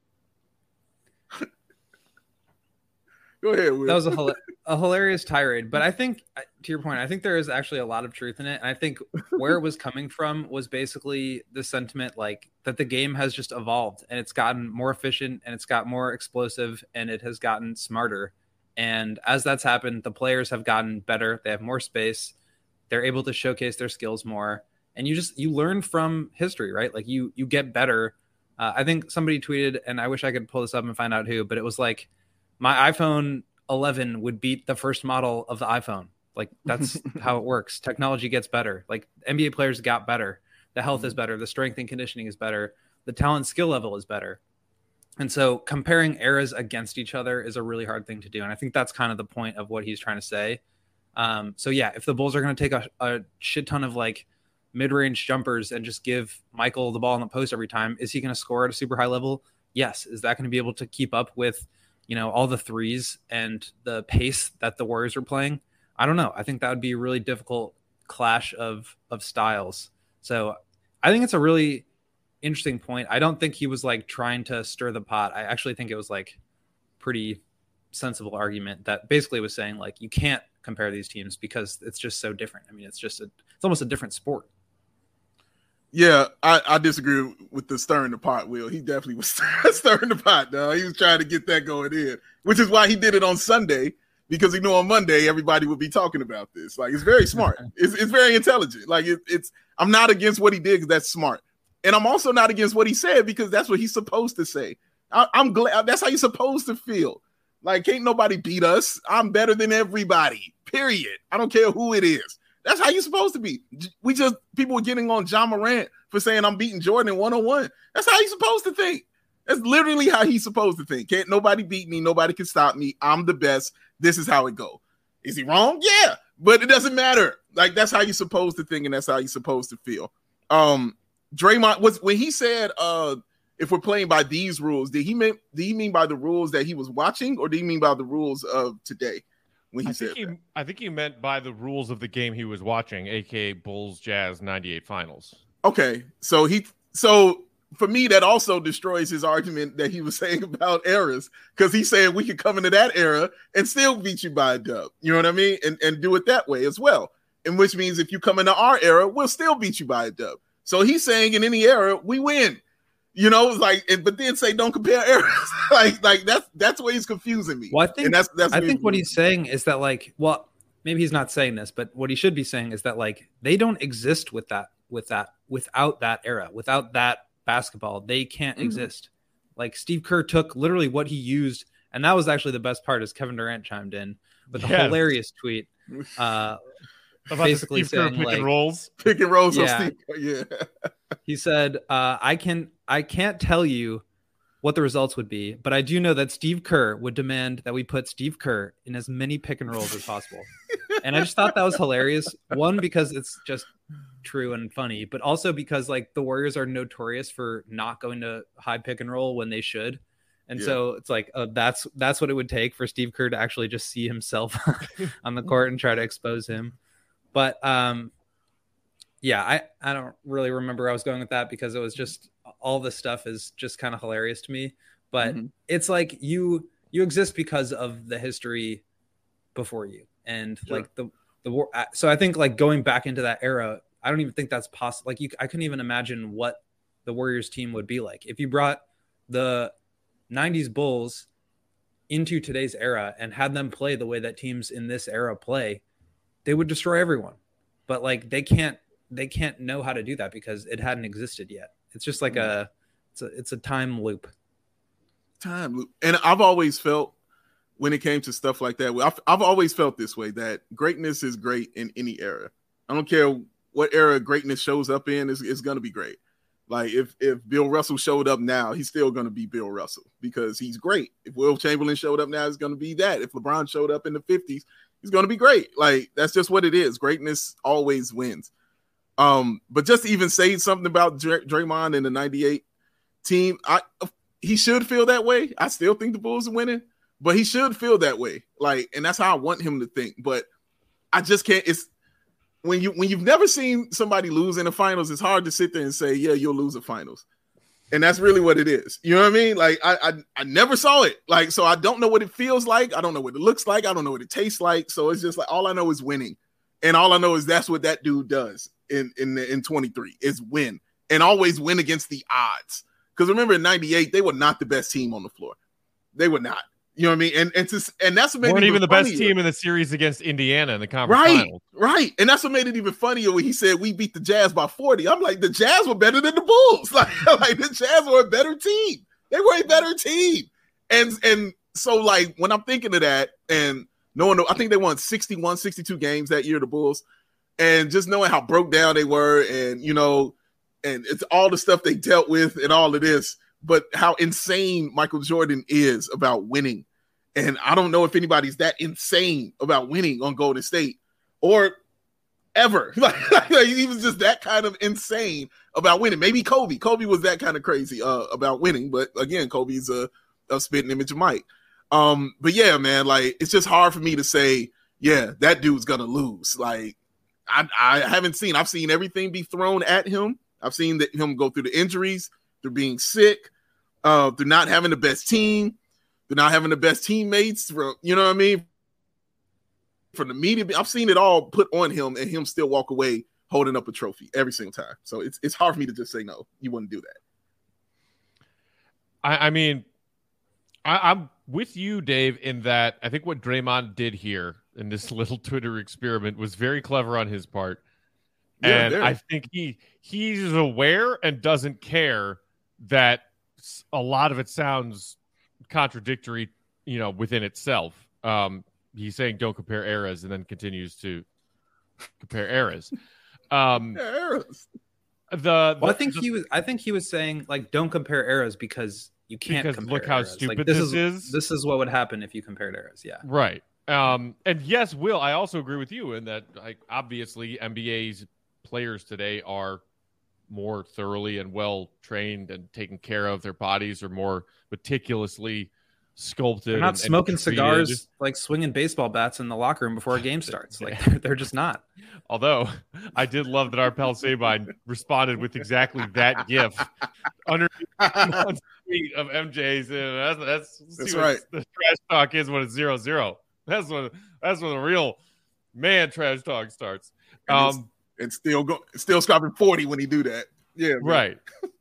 Speaker 3: Go ahead, Will.
Speaker 2: That was a hilarious tirade, but I think, to your point, I think there is actually a lot of truth in it. And I think where it was coming from was basically the sentiment like that the game has just evolved and it's gotten more efficient and it's got more explosive and it has gotten smarter. And as that's happened, the players have gotten better. They have more space. They're able to showcase their skills more. And you learn from history, right? Like you get better. I think somebody tweeted, and I wish I could pull this up and find out who, but it was like, my iPhone 11 would beat the first model of the iPhone. Like that's how it works. Technology gets better. Like NBA players got better. The health is better. The strength and conditioning is better. The talent skill level is better. And so comparing eras against each other is a really hard thing to do. And I think that's kind of the point of what he's trying to say. So yeah, if the Bulls are going to take a shit ton of like mid-range jumpers and just give Michael the ball in the post every time, is he going to score at a super high level? Yes. Is that going to be able to keep up with, all the threes and the pace that the Warriors are playing? I don't know. I think that would be a really difficult clash of styles. So I think it's a really interesting point. I don't think he was like trying to stir the pot. I actually think it was like pretty sensible argument that basically was saying like, you can't compare these teams because it's just so different. I mean, it's almost a different sport.
Speaker 3: Yeah, I disagree with the stirring the pot, Will. He definitely was stirring the pot, dog. He was trying to get that going in, which is why he did it on Sunday, because he knew on Monday everybody would be talking about this. Like, it's very smart. It's very intelligent. Like, I'm not against what he did because that's smart. And I'm also not against what he said because that's what he's supposed to say. I'm glad that's how you're supposed to feel. Like, can't nobody beat us. I'm better than everybody, period. I don't care who it is. That's how you're supposed to be. People were getting on John Morant for saying I'm beating Jordan in one-on-one. That's how he's supposed to think. That's literally how he's supposed to think. Can't nobody beat me. Nobody can stop me. I'm the best. This is how it go. Is he wrong? Yeah, but it doesn't matter. Like, that's how you're supposed to think, and that's how you're supposed to feel. Draymond when he said, if we're playing by these rules, did he mean by the rules that he was watching, or did he mean by the rules of today? When he
Speaker 1: I think he meant by the rules of the game he was watching, aka Bulls Jazz 98 finals.
Speaker 3: Okay, so for me, that also destroys his argument that he was saying about eras, because he's saying we could come into that era and still beat you by a dub. You know what I mean? And do it that way as well. And which means if you come into our era, we'll still beat you by a dub. So he's saying in any era, we win. But then say don't compare eras. like that's where he's confusing me.
Speaker 2: Well, I think what he's saying is that maybe he's not saying this, but what he should be saying is that like they don't exist without that era, without that basketball, they can't exist. Like Steve Kerr took literally what he used, and that was actually the best part. Is Kevin Durant chimed in with a hilarious tweet, basically saying
Speaker 1: pick and rolls.
Speaker 3: Yeah. Yeah.
Speaker 2: He said, I can't tell you what the results would be, but I do know that Steve Kerr would demand that we put Steve Kerr in as many pick and rolls as possible. And I just thought that was hilarious. One, because it's just true and funny, but also because like the Warriors are notorious for not going to high pick and roll when they should. And so it's like, that's what it would take for Steve Kerr to actually just see himself on the court and try to expose him. But I don't really remember where I was going with that, because it was just all this stuff is just kind of hilarious to me. But it's like you exist because of the history before you, and like the war. So I think like going back into that era, I don't even think that's possible. Like I couldn't even imagine what the Warriors team would be like if you brought the 90s Bulls into today's era and had them play the way that teams in this era play. They would destroy everyone. But like they can't know how to do that because it hadn't existed yet. It's just like it's a time loop.
Speaker 3: And I've always felt, when it came to stuff like that, I've always felt this way, that greatness is great in any era. I don't care what era greatness shows up in, it's going to be great. Like if Bill Russell showed up now, he's still going to be Bill Russell because he's great. If Will Chamberlain showed up now, it's going to be that. If LeBron showed up in the 50s, he's going to be great. Like that's just what it is. Greatness always wins. But just to even say something about Draymond and the 98 team, he should feel that way. I still think the Bulls are winning, but he should feel that way. Like, and that's how I want him to think. But I just can't. It's when you've never seen somebody lose in the finals, it's hard to sit there and say, yeah, you'll lose the finals. And that's really what it is. You know what I mean? Like I never saw it. Like, so I don't know what it feels like. I don't know what it looks like. I don't know what it tastes like. So it's just like, all I know is winning. And all I know is that's what that dude does in 23 is win, and always win against the odds. Because remember in 98, they were not the best team on the floor. They were not. You know what I mean? And that's what made it
Speaker 1: even the best team in the series against Indiana in the conference finals.
Speaker 3: Right. And that's what made it even funnier when he said we beat the Jazz by 40. I'm like, the Jazz were better than the Bulls. Like the Jazz were a better team. They were a better team. And So like when I'm thinking of that and knowing, I think they won 61, 62 games that year, the Bulls, and just knowing how broke down they were, and and it's all the stuff they dealt with and all of this, but how insane Michael Jordan is about winning. And I don't know if anybody's that insane about winning on Golden State or ever. Like he was just that kind of insane about winning. Maybe Kobe. Kobe was that kind of crazy about winning, but again, Kobe's a spitting image of Mike. But yeah, man, like it's just hard for me to say, yeah, that dude's gonna lose. Like I haven't seen. I've seen everything be thrown at him. I've seen him go through the injuries, through being sick, through not having the best team, through not having the best teammates. You know what I mean? From the media, I've seen it all put on him, and him still walk away holding up a trophy every single time. So it's hard for me to just say no. You wouldn't do that.
Speaker 1: I mean, I'm with you, Dave, in that I think what Draymond did here in this little Twitter experiment was very clever on his part. Yeah, and I think he's aware and doesn't care that a lot of it sounds contradictory, within itself. He's saying don't compare eras and then continues to compare eras.
Speaker 3: Eras.
Speaker 2: I think he was saying like don't compare eras because you can't compare
Speaker 1: look how
Speaker 2: eras.
Speaker 1: Stupid
Speaker 2: like,
Speaker 1: this is.
Speaker 2: This is what would happen if you compared eras. Yeah.
Speaker 1: Right. And yes, Will, I also agree with you in that like obviously NBA's players today are more thoroughly and well trained and taken care of. Their bodies are more meticulously sculpted.
Speaker 2: They're not smoking cigars, like swinging baseball bats in the locker room before a game starts. Like they're just not.
Speaker 1: Although I did love that our pal Sabine responded with exactly that GIF under one tweet of MJ's. That's
Speaker 3: right.
Speaker 1: The trash talk is when it's 0-0. That's when the real man trash talk starts.
Speaker 3: And still scoring 40 when he do that. Yeah,
Speaker 1: right.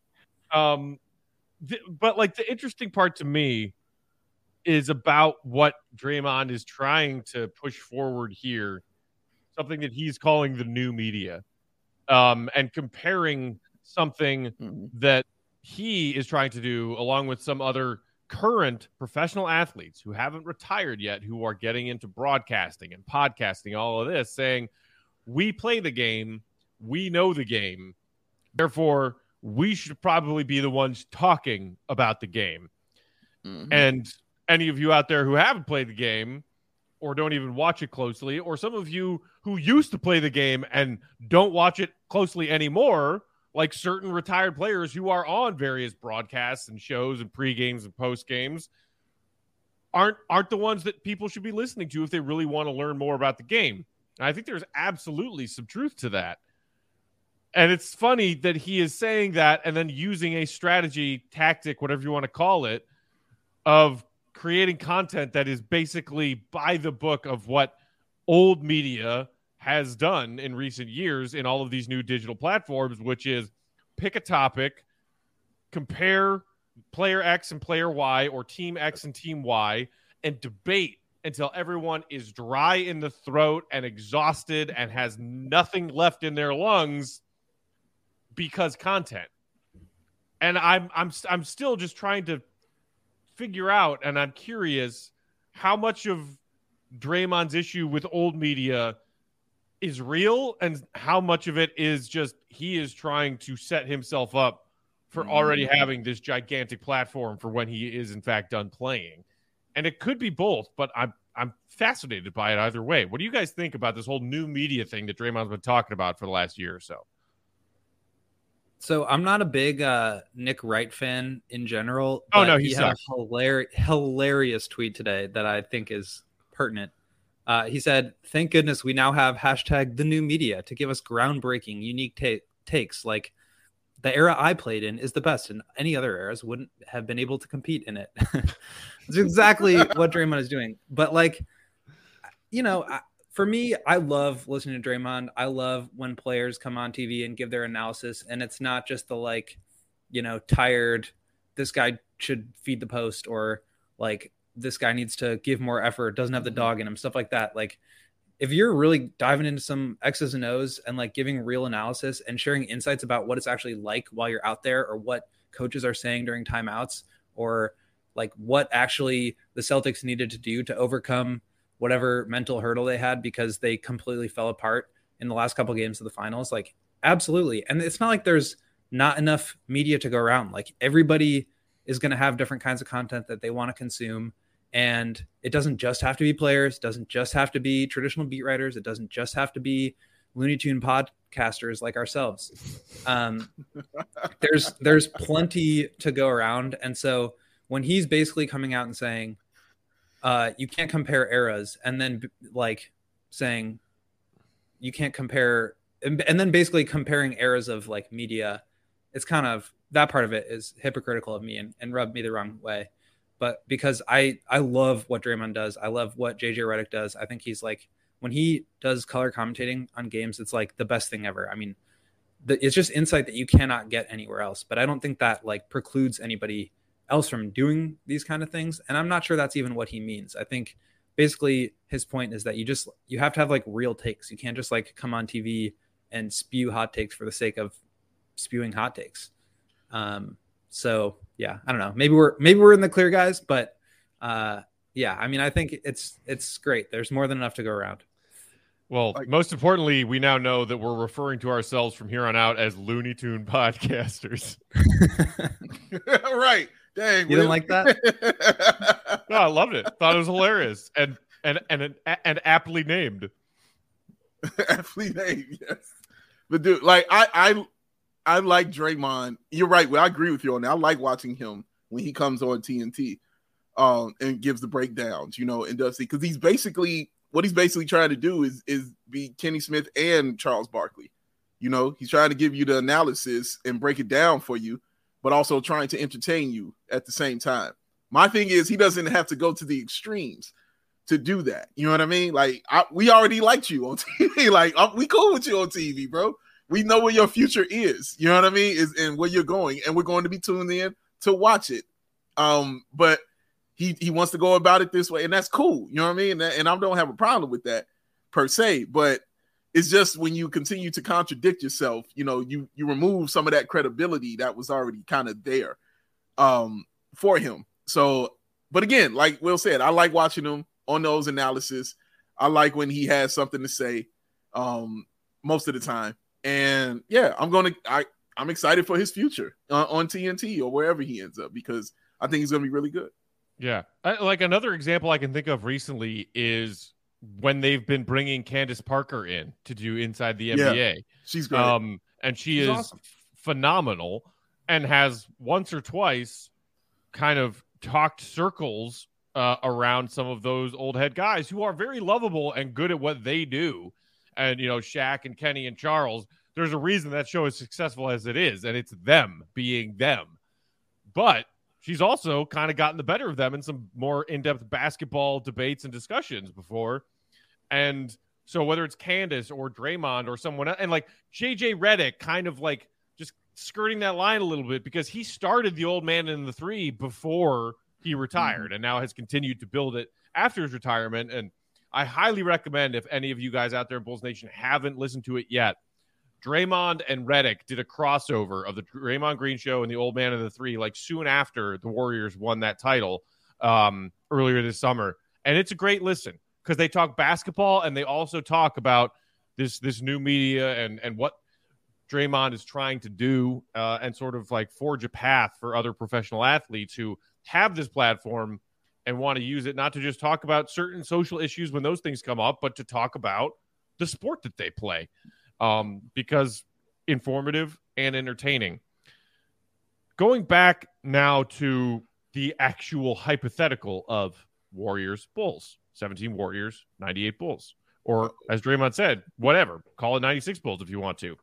Speaker 1: But like the interesting part to me is about what Draymond is trying to push forward here, something that he's calling the new media, and comparing something that he is trying to do along with some other current professional athletes who haven't retired yet, who are getting into broadcasting and podcasting, all of this, saying, we play the game, we know the game, therefore we should probably be the ones talking about the game. Mm-hmm. And any of you out there who haven't played the game or don't even watch it closely, or some of you who used to play the game and don't watch it closely anymore, like certain retired players who are on various broadcasts and shows and pre-games and post-games, aren't the ones that people should be listening to if they really want to learn more about the game. And I think there's absolutely some truth to that. And it's funny that he is saying that and then using a strategy, tactic, whatever you want to call it, of creating content that is basically by the book of what old media has done in recent years in all of these new digital platforms, which is pick a topic, compare player X and player Y or team X and team Y, and debate until everyone is dry in the throat and exhausted and has nothing left in their lungs because content. And I'm still just trying to figure out, and I'm curious how much of Draymond's issue with old media is real and how much of it is just he is trying to set himself up for already having this gigantic platform for when he is in fact done playing. And it could be both, but I'm fascinated by it either way. What do you guys think about this whole new media thing that Draymond's been talking about for the last year or so?
Speaker 2: So I'm not a big Nick Wright fan in general.
Speaker 1: Oh, no, he
Speaker 2: had a hilarious tweet today that I think is pertinent. He said, "Thank goodness we now have hashtag the new media to give us groundbreaking, unique takes. Like the era I played in is the best, and any other eras wouldn't have been able to compete in it." It's exactly what Draymond is doing. But like, for me, I love listening to Draymond. I love when players come on TV and give their analysis, and it's not just the tired, this guy should feed the post, or like this guy needs to give more effort, doesn't have the dog in him, stuff like that. Like if you're really diving into some X's and O's and like giving real analysis and sharing insights about what it's actually like while you're out there, or what coaches are saying during timeouts, or like what actually the Celtics needed to do to overcome whatever mental hurdle they had because they completely fell apart in the last couple of games of the finals. Like, absolutely. And it's not like there's not enough media to go around. Like, everybody is going to have different kinds of content that they want to consume. And it doesn't just have to be players. It doesn't just have to be traditional beat writers. It doesn't just have to be Looney Tune podcasters like ourselves. There's plenty to go around. And so when he's basically coming out and saying, you can't compare eras, and then like saying you can't compare, and then basically comparing eras of like media, it's kind of, that part of it is hypocritical of me and rubbed me the wrong way. But because I love what Draymond does, I love what JJ Redick does. I think he's like, when he does color commentating on games, it's like the best thing ever. I mean, it's just insight that you cannot get anywhere else. But I don't think that like precludes anybody else from doing these kind of things. And I'm not sure that's even what he means. I think basically his point is that you have to have like real takes. You can't just like come on TV and spew hot takes for the sake of spewing hot takes. So yeah, I don't know. Maybe we're in the clear, guys, but yeah, I mean, I think it's great. There's more than enough to go around.
Speaker 1: Well, most importantly, we now know that we're referring to ourselves from here on out as Looney Tune podcasters.
Speaker 3: Right. Dang.
Speaker 2: You didn't like that?
Speaker 1: No, I loved it. Thought it was hilarious and aptly named.
Speaker 3: Aptly named, yes. But dude, like I like Draymond. You're right. Well, I agree with you on that. I like watching him when he comes on TNT and gives the breakdowns, and does because he's basically trying to do is be Kenny Smith and Charles Barkley. He's trying to give you the analysis and break it down for you, but also trying to entertain you at the same time. My thing is he doesn't have to go to the extremes to do that. You know what I mean? Like we already liked you on TV. Like we cool with you on TV, bro. We know where your future is. You know what I mean? And where you're going, and we're going to be tuned in to watch it. But he wants to go about it this way, and that's cool. You know what I mean? And I don't have a problem with that per se, but it's just when you continue to contradict yourself, you remove some of that credibility that was already kind of there for him. So, but again, like Will said, I like watching him on those analysis. I like when he has something to say most of the time. And yeah, I'm excited for his future on TNT or wherever he ends up, because I think he's going to be really good.
Speaker 1: Yeah. Like another example I can think of recently is when they've been bringing Candace Parker in to do Inside the NBA.
Speaker 3: Yeah, she's great.
Speaker 1: And she's awesome. Phenomenal, and has once or twice kind of talked circles around some of those old head guys who are very lovable and good at what they do. And, Shaq and Kenny and Charles, there's a reason that show is successful as it is, and it's them being them. But she's also kind of gotten the better of them in some more in-depth basketball debates and discussions before. And so whether it's Candace or Draymond or someone else, and like JJ Redick kind of like just skirting that line a little bit, because he started the old man in the three before he retired and now has continued to build it after his retirement. And I highly recommend, if any of you guys out there in Bulls Nation haven't listened to it yet, Draymond and Redick did a crossover of the Draymond Green Show and the Old Man of the Three, like soon after the Warriors won that title earlier this summer. And it's a great listen because they talk basketball and they also talk about this new media and what Draymond is trying to do and sort of like forge a path for other professional athletes who have this platform and want to use it not to just talk about certain social issues when those things come up, but to talk about the sport that they play. Because informative and entertaining. Going back now to the actual hypothetical of Warriors Bulls, 17 Warriors, 98 Bulls, or as Draymond said, whatever, call it 96 Bulls if you want to.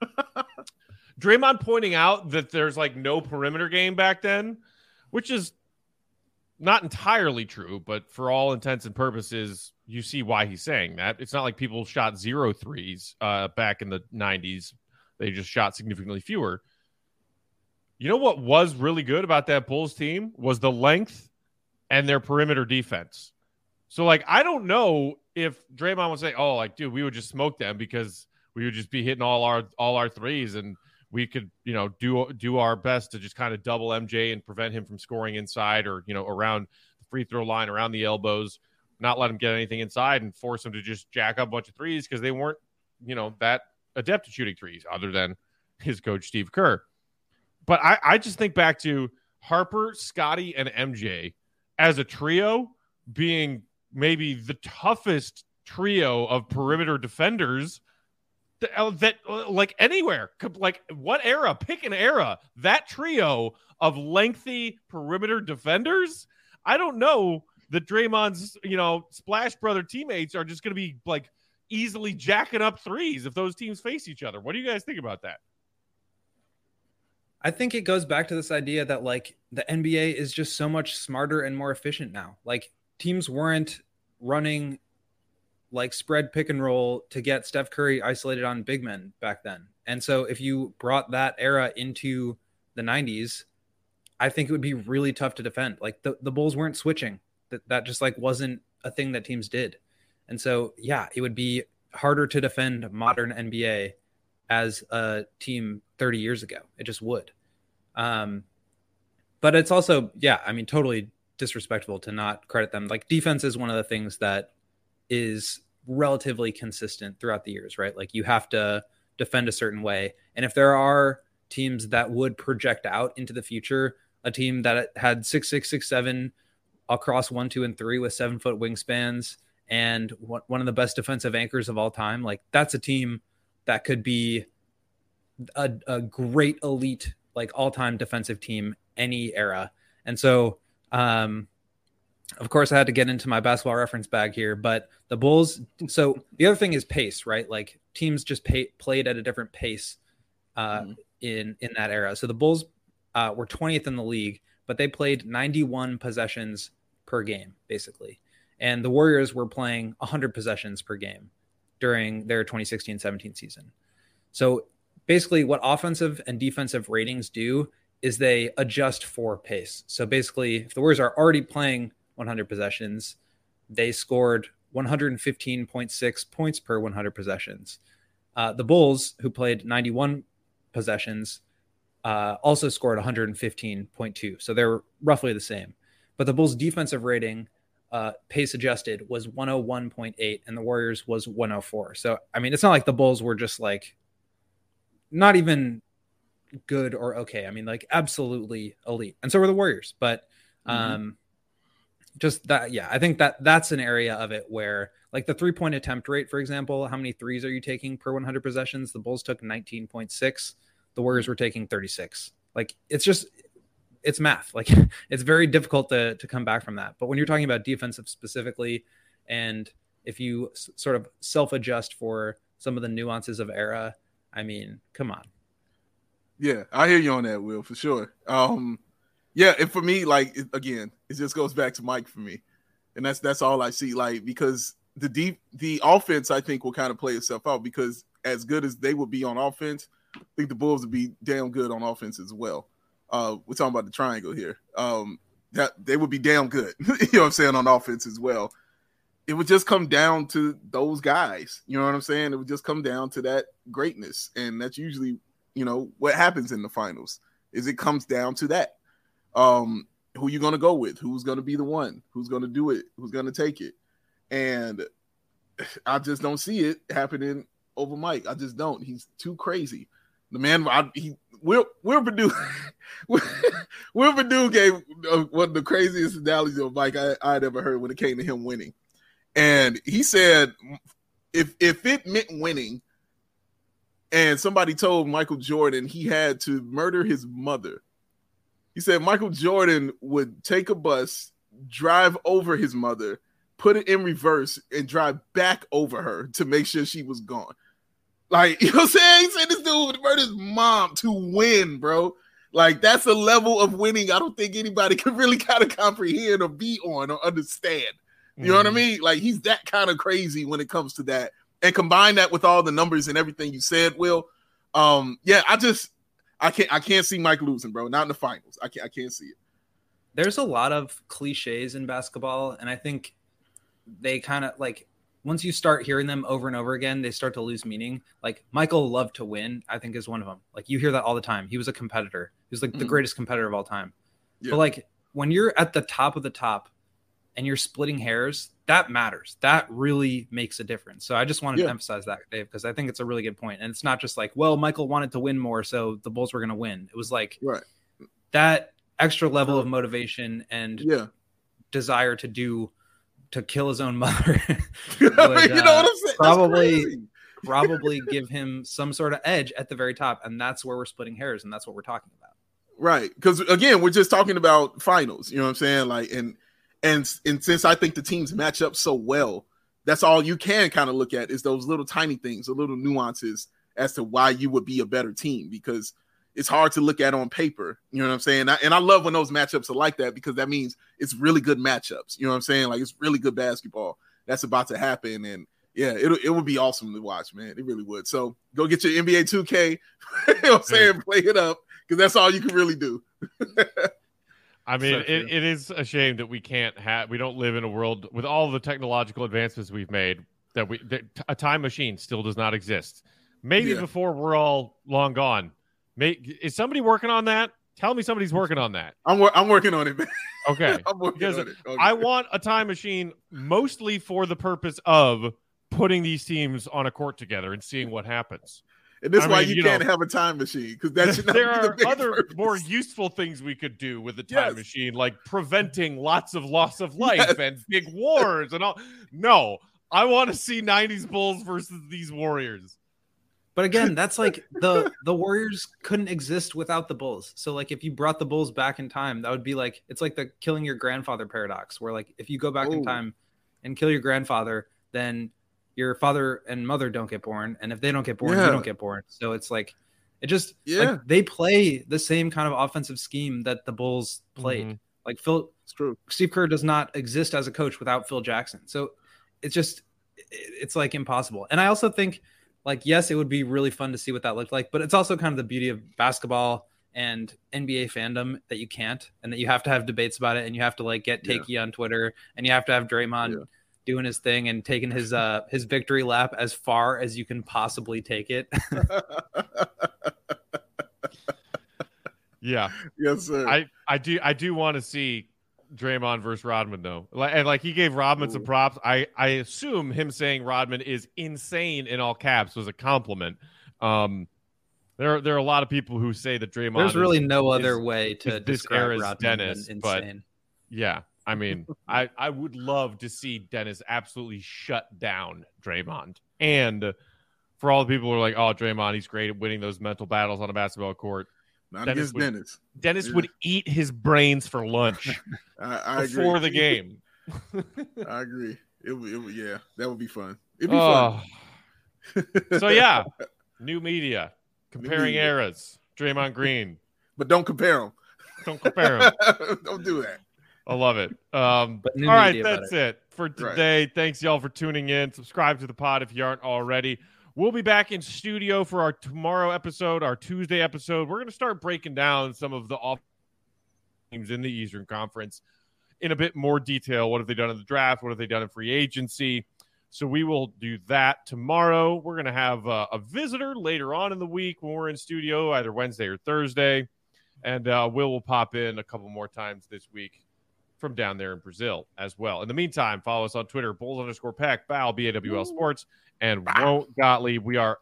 Speaker 1: Draymond pointing out that there's like no perimeter game back then, which is not entirely true, but for all intents and purposes, you see why he's saying that. It's not like people shot 0 threes back in the 90s. They just shot significantly fewer. You know what was really good about that Bulls team was the length and their perimeter defense. So, like, I don't know if Draymond would say, oh, like, dude, we would just smoke them because we would just be hitting all our threes and we could, do our best to just kind of double MJ and prevent him from scoring inside or, around the free throw line, around the elbows, not let him get anything inside and force him to just jack up a bunch of threes because they weren't, that adept at shooting threes other than his coach, Steve Kerr. But I just think back to Harper, Scotty, and MJ as a trio being maybe the toughest trio of perimeter defenders that like anywhere, like what era, pick an era, that trio of lengthy perimeter defenders. I don't know that Draymond's, Splash Brother teammates are just going to be like easily jacking up threes if those teams face each other. What do you guys think about that?
Speaker 2: I think it goes back to this idea that like the NBA is just so much smarter and more efficient now. Like teams weren't running like spread pick and roll to get Steph Curry isolated on big men back then. And so if you brought that era into the 90s, I think it would be really tough to defend. Like the Bulls weren't switching. That just like wasn't a thing that teams did. And so, yeah, it would be harder to defend modern NBA as a team 30 years ago. It just would. But it's also, totally disrespectful to not credit them. Like defense is one of the things that is relatively consistent throughout the years, right? Like you have to defend a certain way. And if there are teams that would project out into the future, a team that had 6'6", 6'7" across 1, 2, and 3 with 7-foot wingspans and one of the best defensive anchors of all time, like that's a team that could be a great elite, like all-time defensive team, any era. And so, of course, I had to get into my basketball reference bag here, but the Bulls. So the other thing is pace, right? Like teams just played at a different pace in that era. So the Bulls were 20th in the league, but they played 91 possessions per game, basically. And the Warriors were playing 100 possessions per game during their 2016-17 season. So basically what offensive and defensive ratings do is they adjust for pace. So basically, if the Warriors are already playing 100 possessions, they scored 115.6 points per 100 possessions. The Bulls, who played 91 possessions, also scored 115.2. So they're roughly the same. But the Bulls' defensive rating, pace adjusted, was 101.8, and the Warriors was 104. So, I mean, it's not like the Bulls were just like not even good or okay. I mean, like absolutely elite. And so were the Warriors. But just that, I think that's an area of it where like the 3-point attempt rate, for example, how many threes are you taking per 100 possessions? The Bulls took 19.6. The Warriors were taking 36. Like it's math. Like it's very difficult to come back from that. But when you're talking about defensive specifically, and if you sort of self-adjust for some of the nuances of era, I mean, come on.
Speaker 3: Yeah, I hear you on that, Will, for sure. And for me, like it just goes back to Mike for me, and that's all I see. Like because the offense, I think, will kind of play itself out because as good as they would be on offense, I think the Bulls would be damn good on offense as well. We're talking about the triangle here. That they would be damn good, you know what I'm saying, on offense as well. It would just come down to those guys. You know what I'm saying? It would just come down to that greatness, and that's usually, what happens in the finals is it comes down to that. Who you going to go with? Who's going to be the one? Who's going to do it? Who's going to take it? And I just don't see it happening over Mike. I just don't. He's too crazy. The man, Will Perdue, Will Perdue gave one of the craziest analogies of Mike I'd ever heard when it came to him winning. And he said, if it meant winning, and somebody told Michael Jordan he had to murder his mother, he said Michael Jordan would take a bus, drive over his mother, put it in reverse, and drive back over her to make sure she was gone. Like, you know what I'm saying? He said this dude would murder his mom to win, bro. Like, that's a level of winning I don't think anybody can really kind of comprehend or be on or understand. You know what I mean? Like, he's that kind of crazy when it comes to that. And combine that with all the numbers and everything you said, Will. I can't see Mike losing, bro. Not in the finals. I can't see it. There's
Speaker 2: a lot of cliches in basketball, and I think they kind of like once you start hearing them over and over again, they start to lose meaning. Like Michael loved to win, I think is one of them. Like you hear that all the time. He was a competitor. He was like the greatest competitor of all time. Yeah. But like when you're at the top of the top and you're splitting hairs, that matters. That really makes a difference. So I just wanted to emphasize that, Dave, because I think it's a really good point. And it's not just like, well, Michael wanted to win more, so the Bulls were going to win. It was like that extra level of motivation and desire to kill his own mother would, you know what I'm saying? Probably give him some sort of edge at the very top. And that's where we're splitting hairs. And that's what we're talking about.
Speaker 3: Right. Because again, we're just talking about finals, you know what I'm saying? Like, and since I think the teams match up so well, that's all you can kind of look at is those little tiny things, the little nuances as to why you would be a better team, because it's hard to look at on paper. You know what I'm saying? And I love when those matchups are like that, because that means it's really good matchups. You know what I'm saying? Like it's really good basketball that's about to happen. And yeah, it would be awesome to watch, man. It really would. So go get your NBA 2K, you know what I'm saying? Play it up, because that's all you can really do.
Speaker 1: I mean, it is a shame that we don't live in a world with all the technological advancements we've made that a time machine still does not exist. Maybe before we're all long gone. Is somebody working on that? Tell me somebody's working on that.
Speaker 3: I'm working on it, man.
Speaker 1: Okay.
Speaker 3: I'm working on it. Okay.
Speaker 1: I want a time machine mostly for the purpose of putting these teams on a court together and seeing what happens.
Speaker 3: And that's why you can't have a time machine, because that's
Speaker 1: there are other more useful things we could do with the time machine, like preventing lots of loss of life and big wars and all. No, I want to see 90s Bulls versus these Warriors.
Speaker 2: But again, that's like the Warriors couldn't exist without the Bulls. So like if you brought the Bulls back in time, that would be like, it's like the killing your grandfather paradox, where like if you go back in time and kill your grandfather, then your father and mother don't get born, and if they don't get born, you don't get born. So it's like like they play the same kind of offensive scheme that the Bulls played. Mm-hmm. Like Steve Kerr does not exist as a coach without Phil Jackson. So it's like impossible. And I also think like, yes, it would be really fun to see what that looked like, but it's also kind of the beauty of basketball and NBA fandom that you can't, and that you have to have debates about it, and you have to like get takey on Twitter, and you have to have Draymond doing his thing and taking his victory lap as far as you can possibly take it.
Speaker 1: Yeah.
Speaker 3: Yes, sir.
Speaker 1: I do want to see Draymond versus Rodman though. Like he gave Rodman some props. I assume him saying Rodman is insane in all caps was a compliment. There are a lot of people who say that Draymond
Speaker 2: there's really no other way to describe Rodman
Speaker 1: Dennis,
Speaker 2: than
Speaker 1: but
Speaker 2: insane.
Speaker 1: Yeah. I mean, I would love to see Dennis absolutely shut down Draymond. And for all the people who are like, oh, Draymond, he's great at winning those mental battles on a basketball court.
Speaker 3: Not against Dennis.
Speaker 1: Dennis would eat his brains for lunch before the game.
Speaker 3: I agree. It would, that would be fun. It'd be fun.
Speaker 1: So, yeah, new media, comparing eras, Draymond Green.
Speaker 3: But don't compare them.
Speaker 1: Don't compare them.
Speaker 3: Don't do that.
Speaker 1: I love it. All right, that's it for today. Right. Thanks, y'all, for tuning in. Subscribe to the pod if you aren't already. We'll be back in studio for our tomorrow episode, our Tuesday episode. We're going to start breaking down some of the off teams in the Eastern Conference in a bit more detail. What have they done in the draft? What have they done in free agency? So we will do that tomorrow. We're going to have a visitor later on in the week when we're in studio, either Wednesday or Thursday. And Will pop in a couple more times this week from down there in Brazil as well. In the meantime, follow us on Twitter, Bulls_Pack, Bow, BAWL Sports, and Won't Gottlieb. We are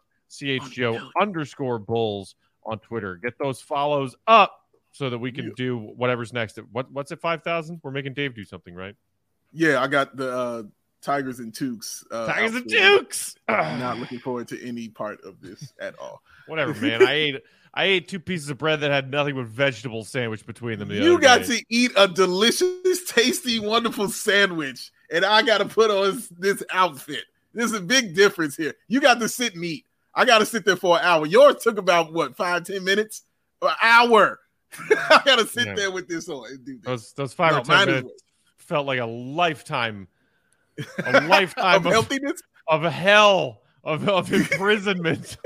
Speaker 1: CHGO_Bulls on Twitter. Get those follows up so that we can do whatever's next. What's it, 5,000? We're making Dave do something, right?
Speaker 3: Yeah, I got the Tigers and Tukes.
Speaker 1: Tigers and Tukes!
Speaker 3: I'm not looking forward to any part of this at all.
Speaker 1: Whatever, man. I ate 2 pieces of bread that had nothing but vegetable sandwich between them.
Speaker 3: You got to eat a delicious, tasty, wonderful sandwich, and I got to put on this outfit. There's a big difference here. You got to sit and eat. I got to sit there for an hour. Yours took about, 5-10 minutes? An hour. I got to sit there with this on and do this.
Speaker 1: Those 5 or 10 minutes felt like a lifetime. A lifetime
Speaker 3: of healthiness?
Speaker 1: Of hell, of imprisonment.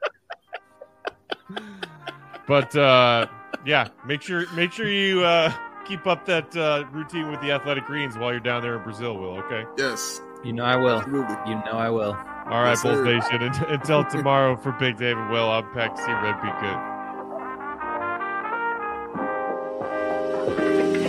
Speaker 1: But make sure you keep up that routine with the Athletic Greens while you're down there in Brazil, Will. Okay.
Speaker 3: Yes.
Speaker 2: You know I will.
Speaker 3: Absolutely.
Speaker 2: You know I will.
Speaker 1: All right,
Speaker 3: Yes,
Speaker 1: Bulls
Speaker 3: sir.
Speaker 1: Nation. Until tomorrow for Big David Will, I'm Peck. See Red. Be good.